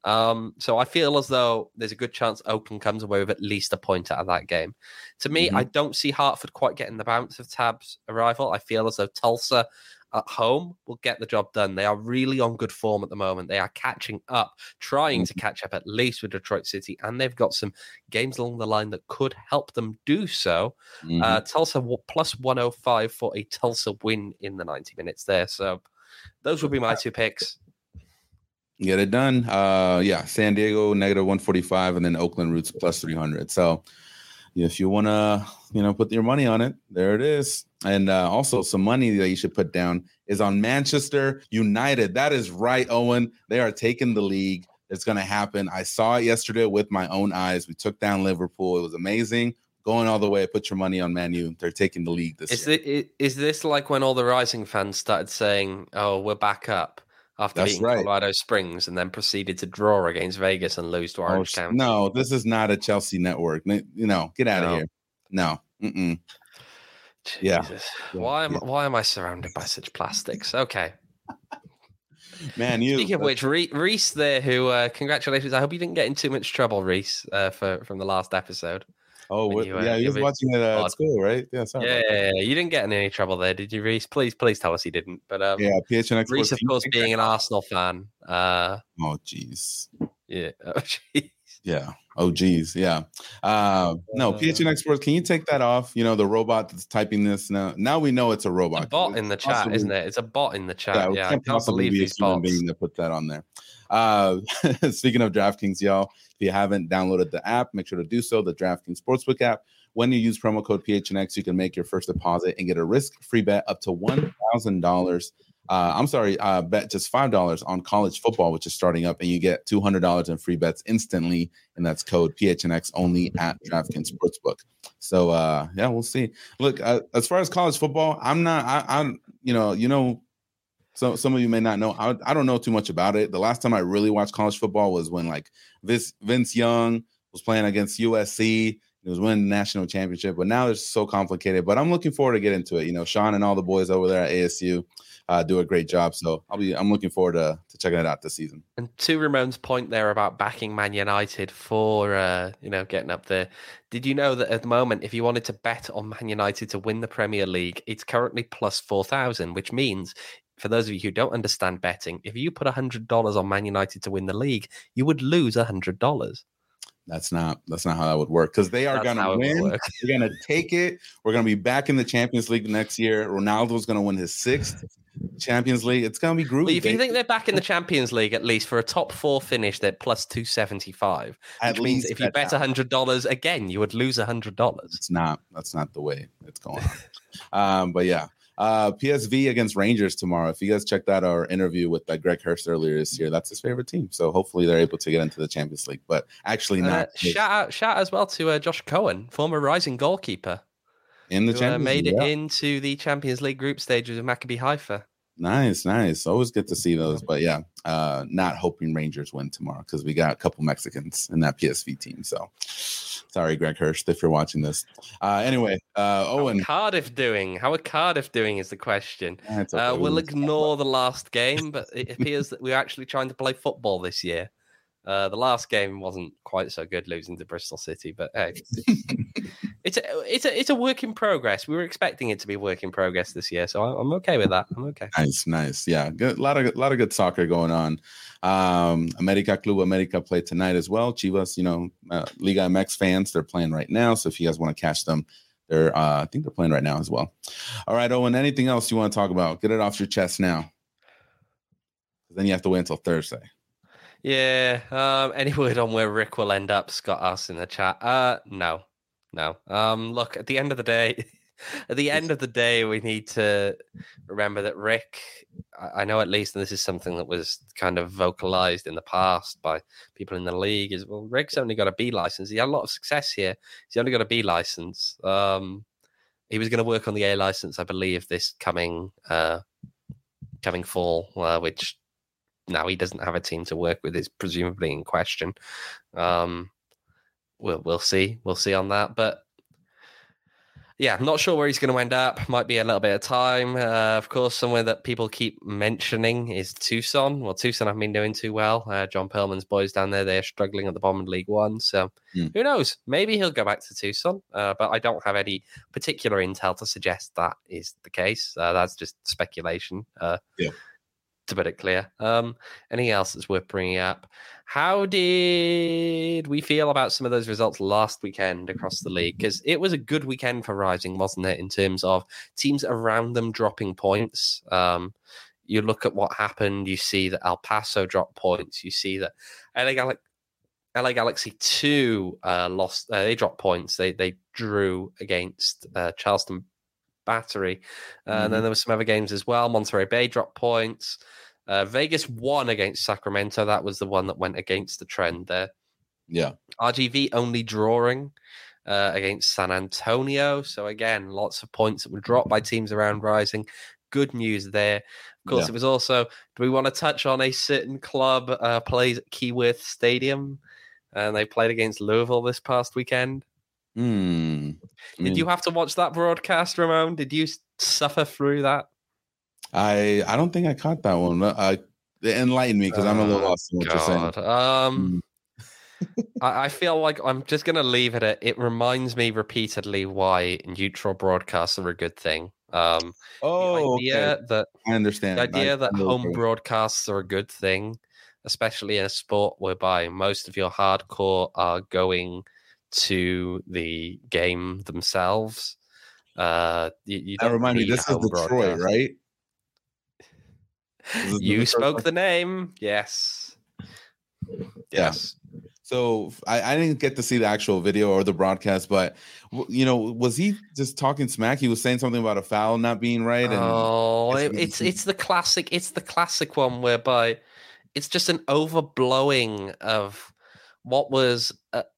So I feel as though there's a good chance Oakland comes away with at least a point out of that game. To me, I don't see Hartford quite getting the bounce of Tab's arrival. I feel as though Tulsa at home will get the job done. They are really on good form at the moment. They are catching up, trying to catch up at least with Detroit City, and they've got some games along the line that could help them do so. Tulsa plus 105 for a Tulsa win in the 90 minutes there. So those would be my two picks. Get it done. San Diego negative 145, and then Oakland Roots plus 300. So if you want to, put your money on it, there it is. And also some money that you should put down is on Manchester United. That is right, Owen. They are taking the league. It's going to happen. I saw it yesterday with my own eyes. We took down Liverpool. It was amazing. Going all the way, put your money on Man U. They're taking the league this year. Is this like when all the Rising fans started saying, "Oh, we're back up" after beating Colorado Springs, and then proceeded to draw against Vegas and lose to Orange County? No, this is not a Chelsea network. Get out of here. No. Yeah. Why am I surrounded by such plastics? Okay. Man, Speaking of which, Reese there, who congratulations. I hope you didn't get in too much trouble, Reese, from the last episode. Oh, he was watching it at school, right? Yeah, you didn't get in any trouble there, did you, Reese? Please tell us he didn't. But PHNX Reese, of course, being an Arsenal fan. Oh, jeez. Yeah. Oh, jeez. Yeah. Oh, geez. Yeah. No, PHNX Sports, can you take that off? The robot that's typing this now. Now we know it's a robot. It's a bot in the chat, isn't it? It's a bot in the chat. Yeah, I can't believe these bots. Being to put that on there. Speaking of DraftKings, y'all, if you haven't downloaded the app, make sure to do so. The DraftKings Sportsbook app. When you use promo code PHNX, you can make your first deposit and get a risk-free bet up to $1,000. Bet just $5 on college football, which is starting up, and you get $200 in free bets instantly, and that's code PHNX only at DraftKings Sportsbook. So, we'll see. Look, as far as college football, so some of you may not know. I don't know too much about it. The last time I really watched college football was when Vince Young was playing against USC. It was winning the national championship, but now it's so complicated. But I'm looking forward to get into it. Sean and all the boys over there at ASU do a great job. So I'm looking forward to checking it out this season. And to Ramon's point there about backing Man United for getting up there. Did you know that at the moment, if you wanted to bet on Man United to win the Premier League, it's currently plus 4,000, which means, for those of you who don't understand betting, if you put $100 on Man United to win the league, you would lose $100. That's not how that would work, because they are going to win. They're going to take it. We're going to be back in the Champions League next year. Ronaldo's going to win his 6th Champions League. It's going to be groovy. Well, if you think they're back in the Champions League, at least for a top 4 finish, they're plus 275. Which means if you bet $100 again, you would lose $100. That's not the way it's going on. But yeah. PSV against Rangers tomorrow. If you guys checked out our interview with Greg Hurst earlier this year, that's his favorite team. So hopefully they're able to get into the Champions League, but actually not. Shout out as well to Josh Cohen, former Rising goalkeeper. In the Champions League. Made it into the Champions League group stages of Maccabi Haifa. Nice. Always good to see those. But yeah, not hoping Rangers win tomorrow because we got a couple Mexicans in that PSV team. So sorry, Greg Hurst, if you're watching this. Anyway, Owen. How are Cardiff doing is the question. Okay. We'll ignore the last game, but it appears that we're actually trying to play football this year. The last game wasn't quite so good, losing to Bristol City, but hey, it's a work in progress. We were expecting it to be a work in progress this year, so I'm okay with that. I'm okay. Nice. Yeah, good. A lot of good soccer going on. Club America played tonight as well. Chivas, Liga MX fans, they're playing right now. So if you guys want to catch them, I think they're playing right now as well. All right, Owen. Anything else you want to talk about? Get it off your chest now. Then you have to wait until Thursday. Yeah. Any word on where Rick will end up? Scott asks in the chat. No. Look, at the end of the day, we need to remember that Rick, I know at least, and this is something that was kind of vocalized in the past by people in the league, is, well, Rick's only got a B license. He had a lot of success here. He's only got a B license. He was going to work on the A license, I believe, this coming fall, which now he doesn't have a team to work with, is presumably in question. We'll see on that, but yeah, I'm not sure where he's going to end up. Might be a little bit of time. Of course, somewhere that people keep mentioning is Tucson. Well, Tucson haven't been doing too well. John Perlman's boys down there, they're struggling at the bottom of League One. So who knows? Maybe he'll go back to Tucson, but I don't have any particular intel to suggest that is the case. That's just speculation. To put it clear. Anything else that's worth bringing up? How did we feel about some of those results last weekend across the league? Because it was a good weekend for Rising, wasn't it, in terms of teams around them dropping points. You look at what happened, you see that El Paso dropped points, you see that LA Galaxy 2 lost, they dropped points. They drew against Charleston Battery. And then there were some other games as well. Monterey Bay dropped points. Vegas won against Sacramento. That was the one that went against the trend there. Yeah. RGV only drawing against San Antonio. So again, lots of points that were dropped by teams around Rising. Good news there. Of course, It was also, do we want to touch on a certain club plays at Keyworth Stadium? And they played against Louisville this past weekend. Did you have to watch that broadcast, Ramon? Did you suffer through that? I don't think I caught that one. Enlighten me, because I'm a little lost in what you're saying. I feel like I'm just going to leave it at, it reminds me repeatedly why neutral broadcasts are a good thing. Okay. That I understand. The idea that home broadcasts are a good thing, especially in a sport whereby most of your hardcore are going to the game themselves. You don't remind me, this is Detroit, right? You spoke the name. Yes. So I didn't get to see the actual video or the broadcast, but was he just talking smack? He was saying something about a foul not being right. And it's the classic. It's the classic one whereby it's just an overblowing of what was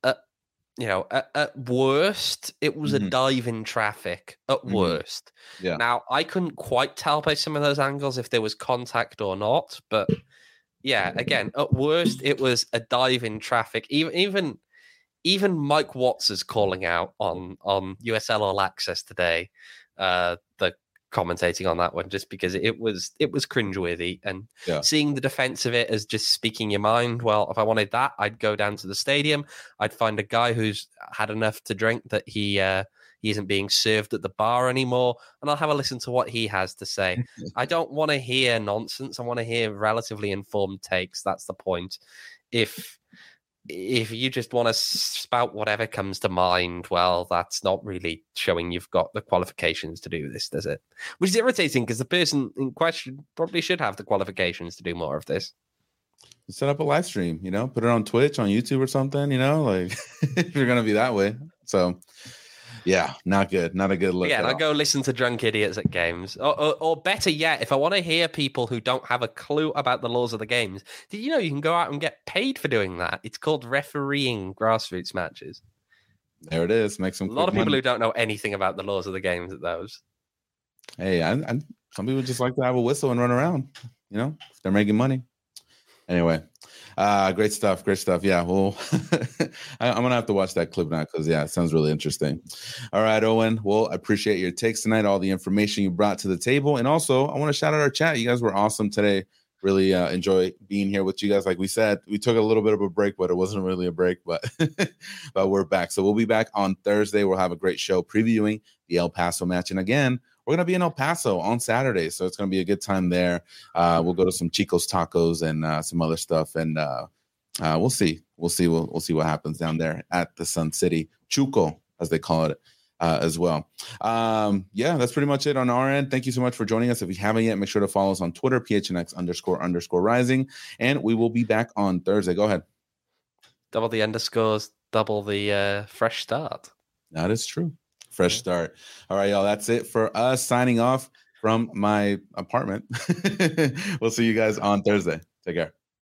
at worst, it was a dive in traffic. At worst. Yeah. Now, I couldn't quite tell by some of those angles if there was contact or not, but yeah, again, at worst, it was a dive in traffic. Even Mike Watts is calling out on USL All Access today, the commentating on that one, just because it was cringeworthy, and seeing the defense of it as just speaking your mind. Well, if I wanted that, I'd go down to the stadium. I'd find a guy who's had enough to drink that he isn't being served at the bar anymore, and I'll have a listen to what he has to say. I don't want to hear nonsense. I want to hear relatively informed takes. That's the point. If you just want to spout whatever comes to mind, well, that's not really showing you've got the qualifications to do this, does it? Which is irritating, because the person in question probably should have the qualifications to do more of this. Set up a live stream, put it on Twitch, on YouTube or something, like if you're going to be that way. So, yeah, not good. Not a good look. Yeah, I'll go listen to drunk idiots at games. Or better yet, if I want to hear people who don't have a clue about the laws of the games, did you know you can go out and get paid for doing that? It's called refereeing grassroots matches. There it is. Make some. A lot of people who don't know anything about the laws of the games at those. Hey, Some people just like to have a whistle and run around, if they're making money. Anyway, great stuff. Yeah, well, I'm going to have to watch that clip now because, it sounds really interesting. All right, Owen. Well, I appreciate your takes tonight, all the information you brought to the table. And also, I want to shout out our chat. You guys were awesome today. Really enjoy being here with you guys. Like we said, we took a little bit of a break, but it wasn't really a break, but we're back. So we'll be back on Thursday. We'll have a great show previewing the El Paso match. And again, we're going to be in El Paso on Saturday, so it's going to be a good time there. We'll go to some Chico's Tacos and some other stuff, and we'll see. We'll see what happens down there at the Sun City Chuco, as they call it, as well. That's pretty much it on our end. Thank you so much for joining us. If you haven't yet, make sure to follow us on Twitter, PHNX__rising, and we will be back on Thursday. Go ahead. Double the underscores, double the fresh start. That is true. Fresh start. All right, y'all. That's it for us signing off from my apartment. We'll see you guys on Thursday. Take care.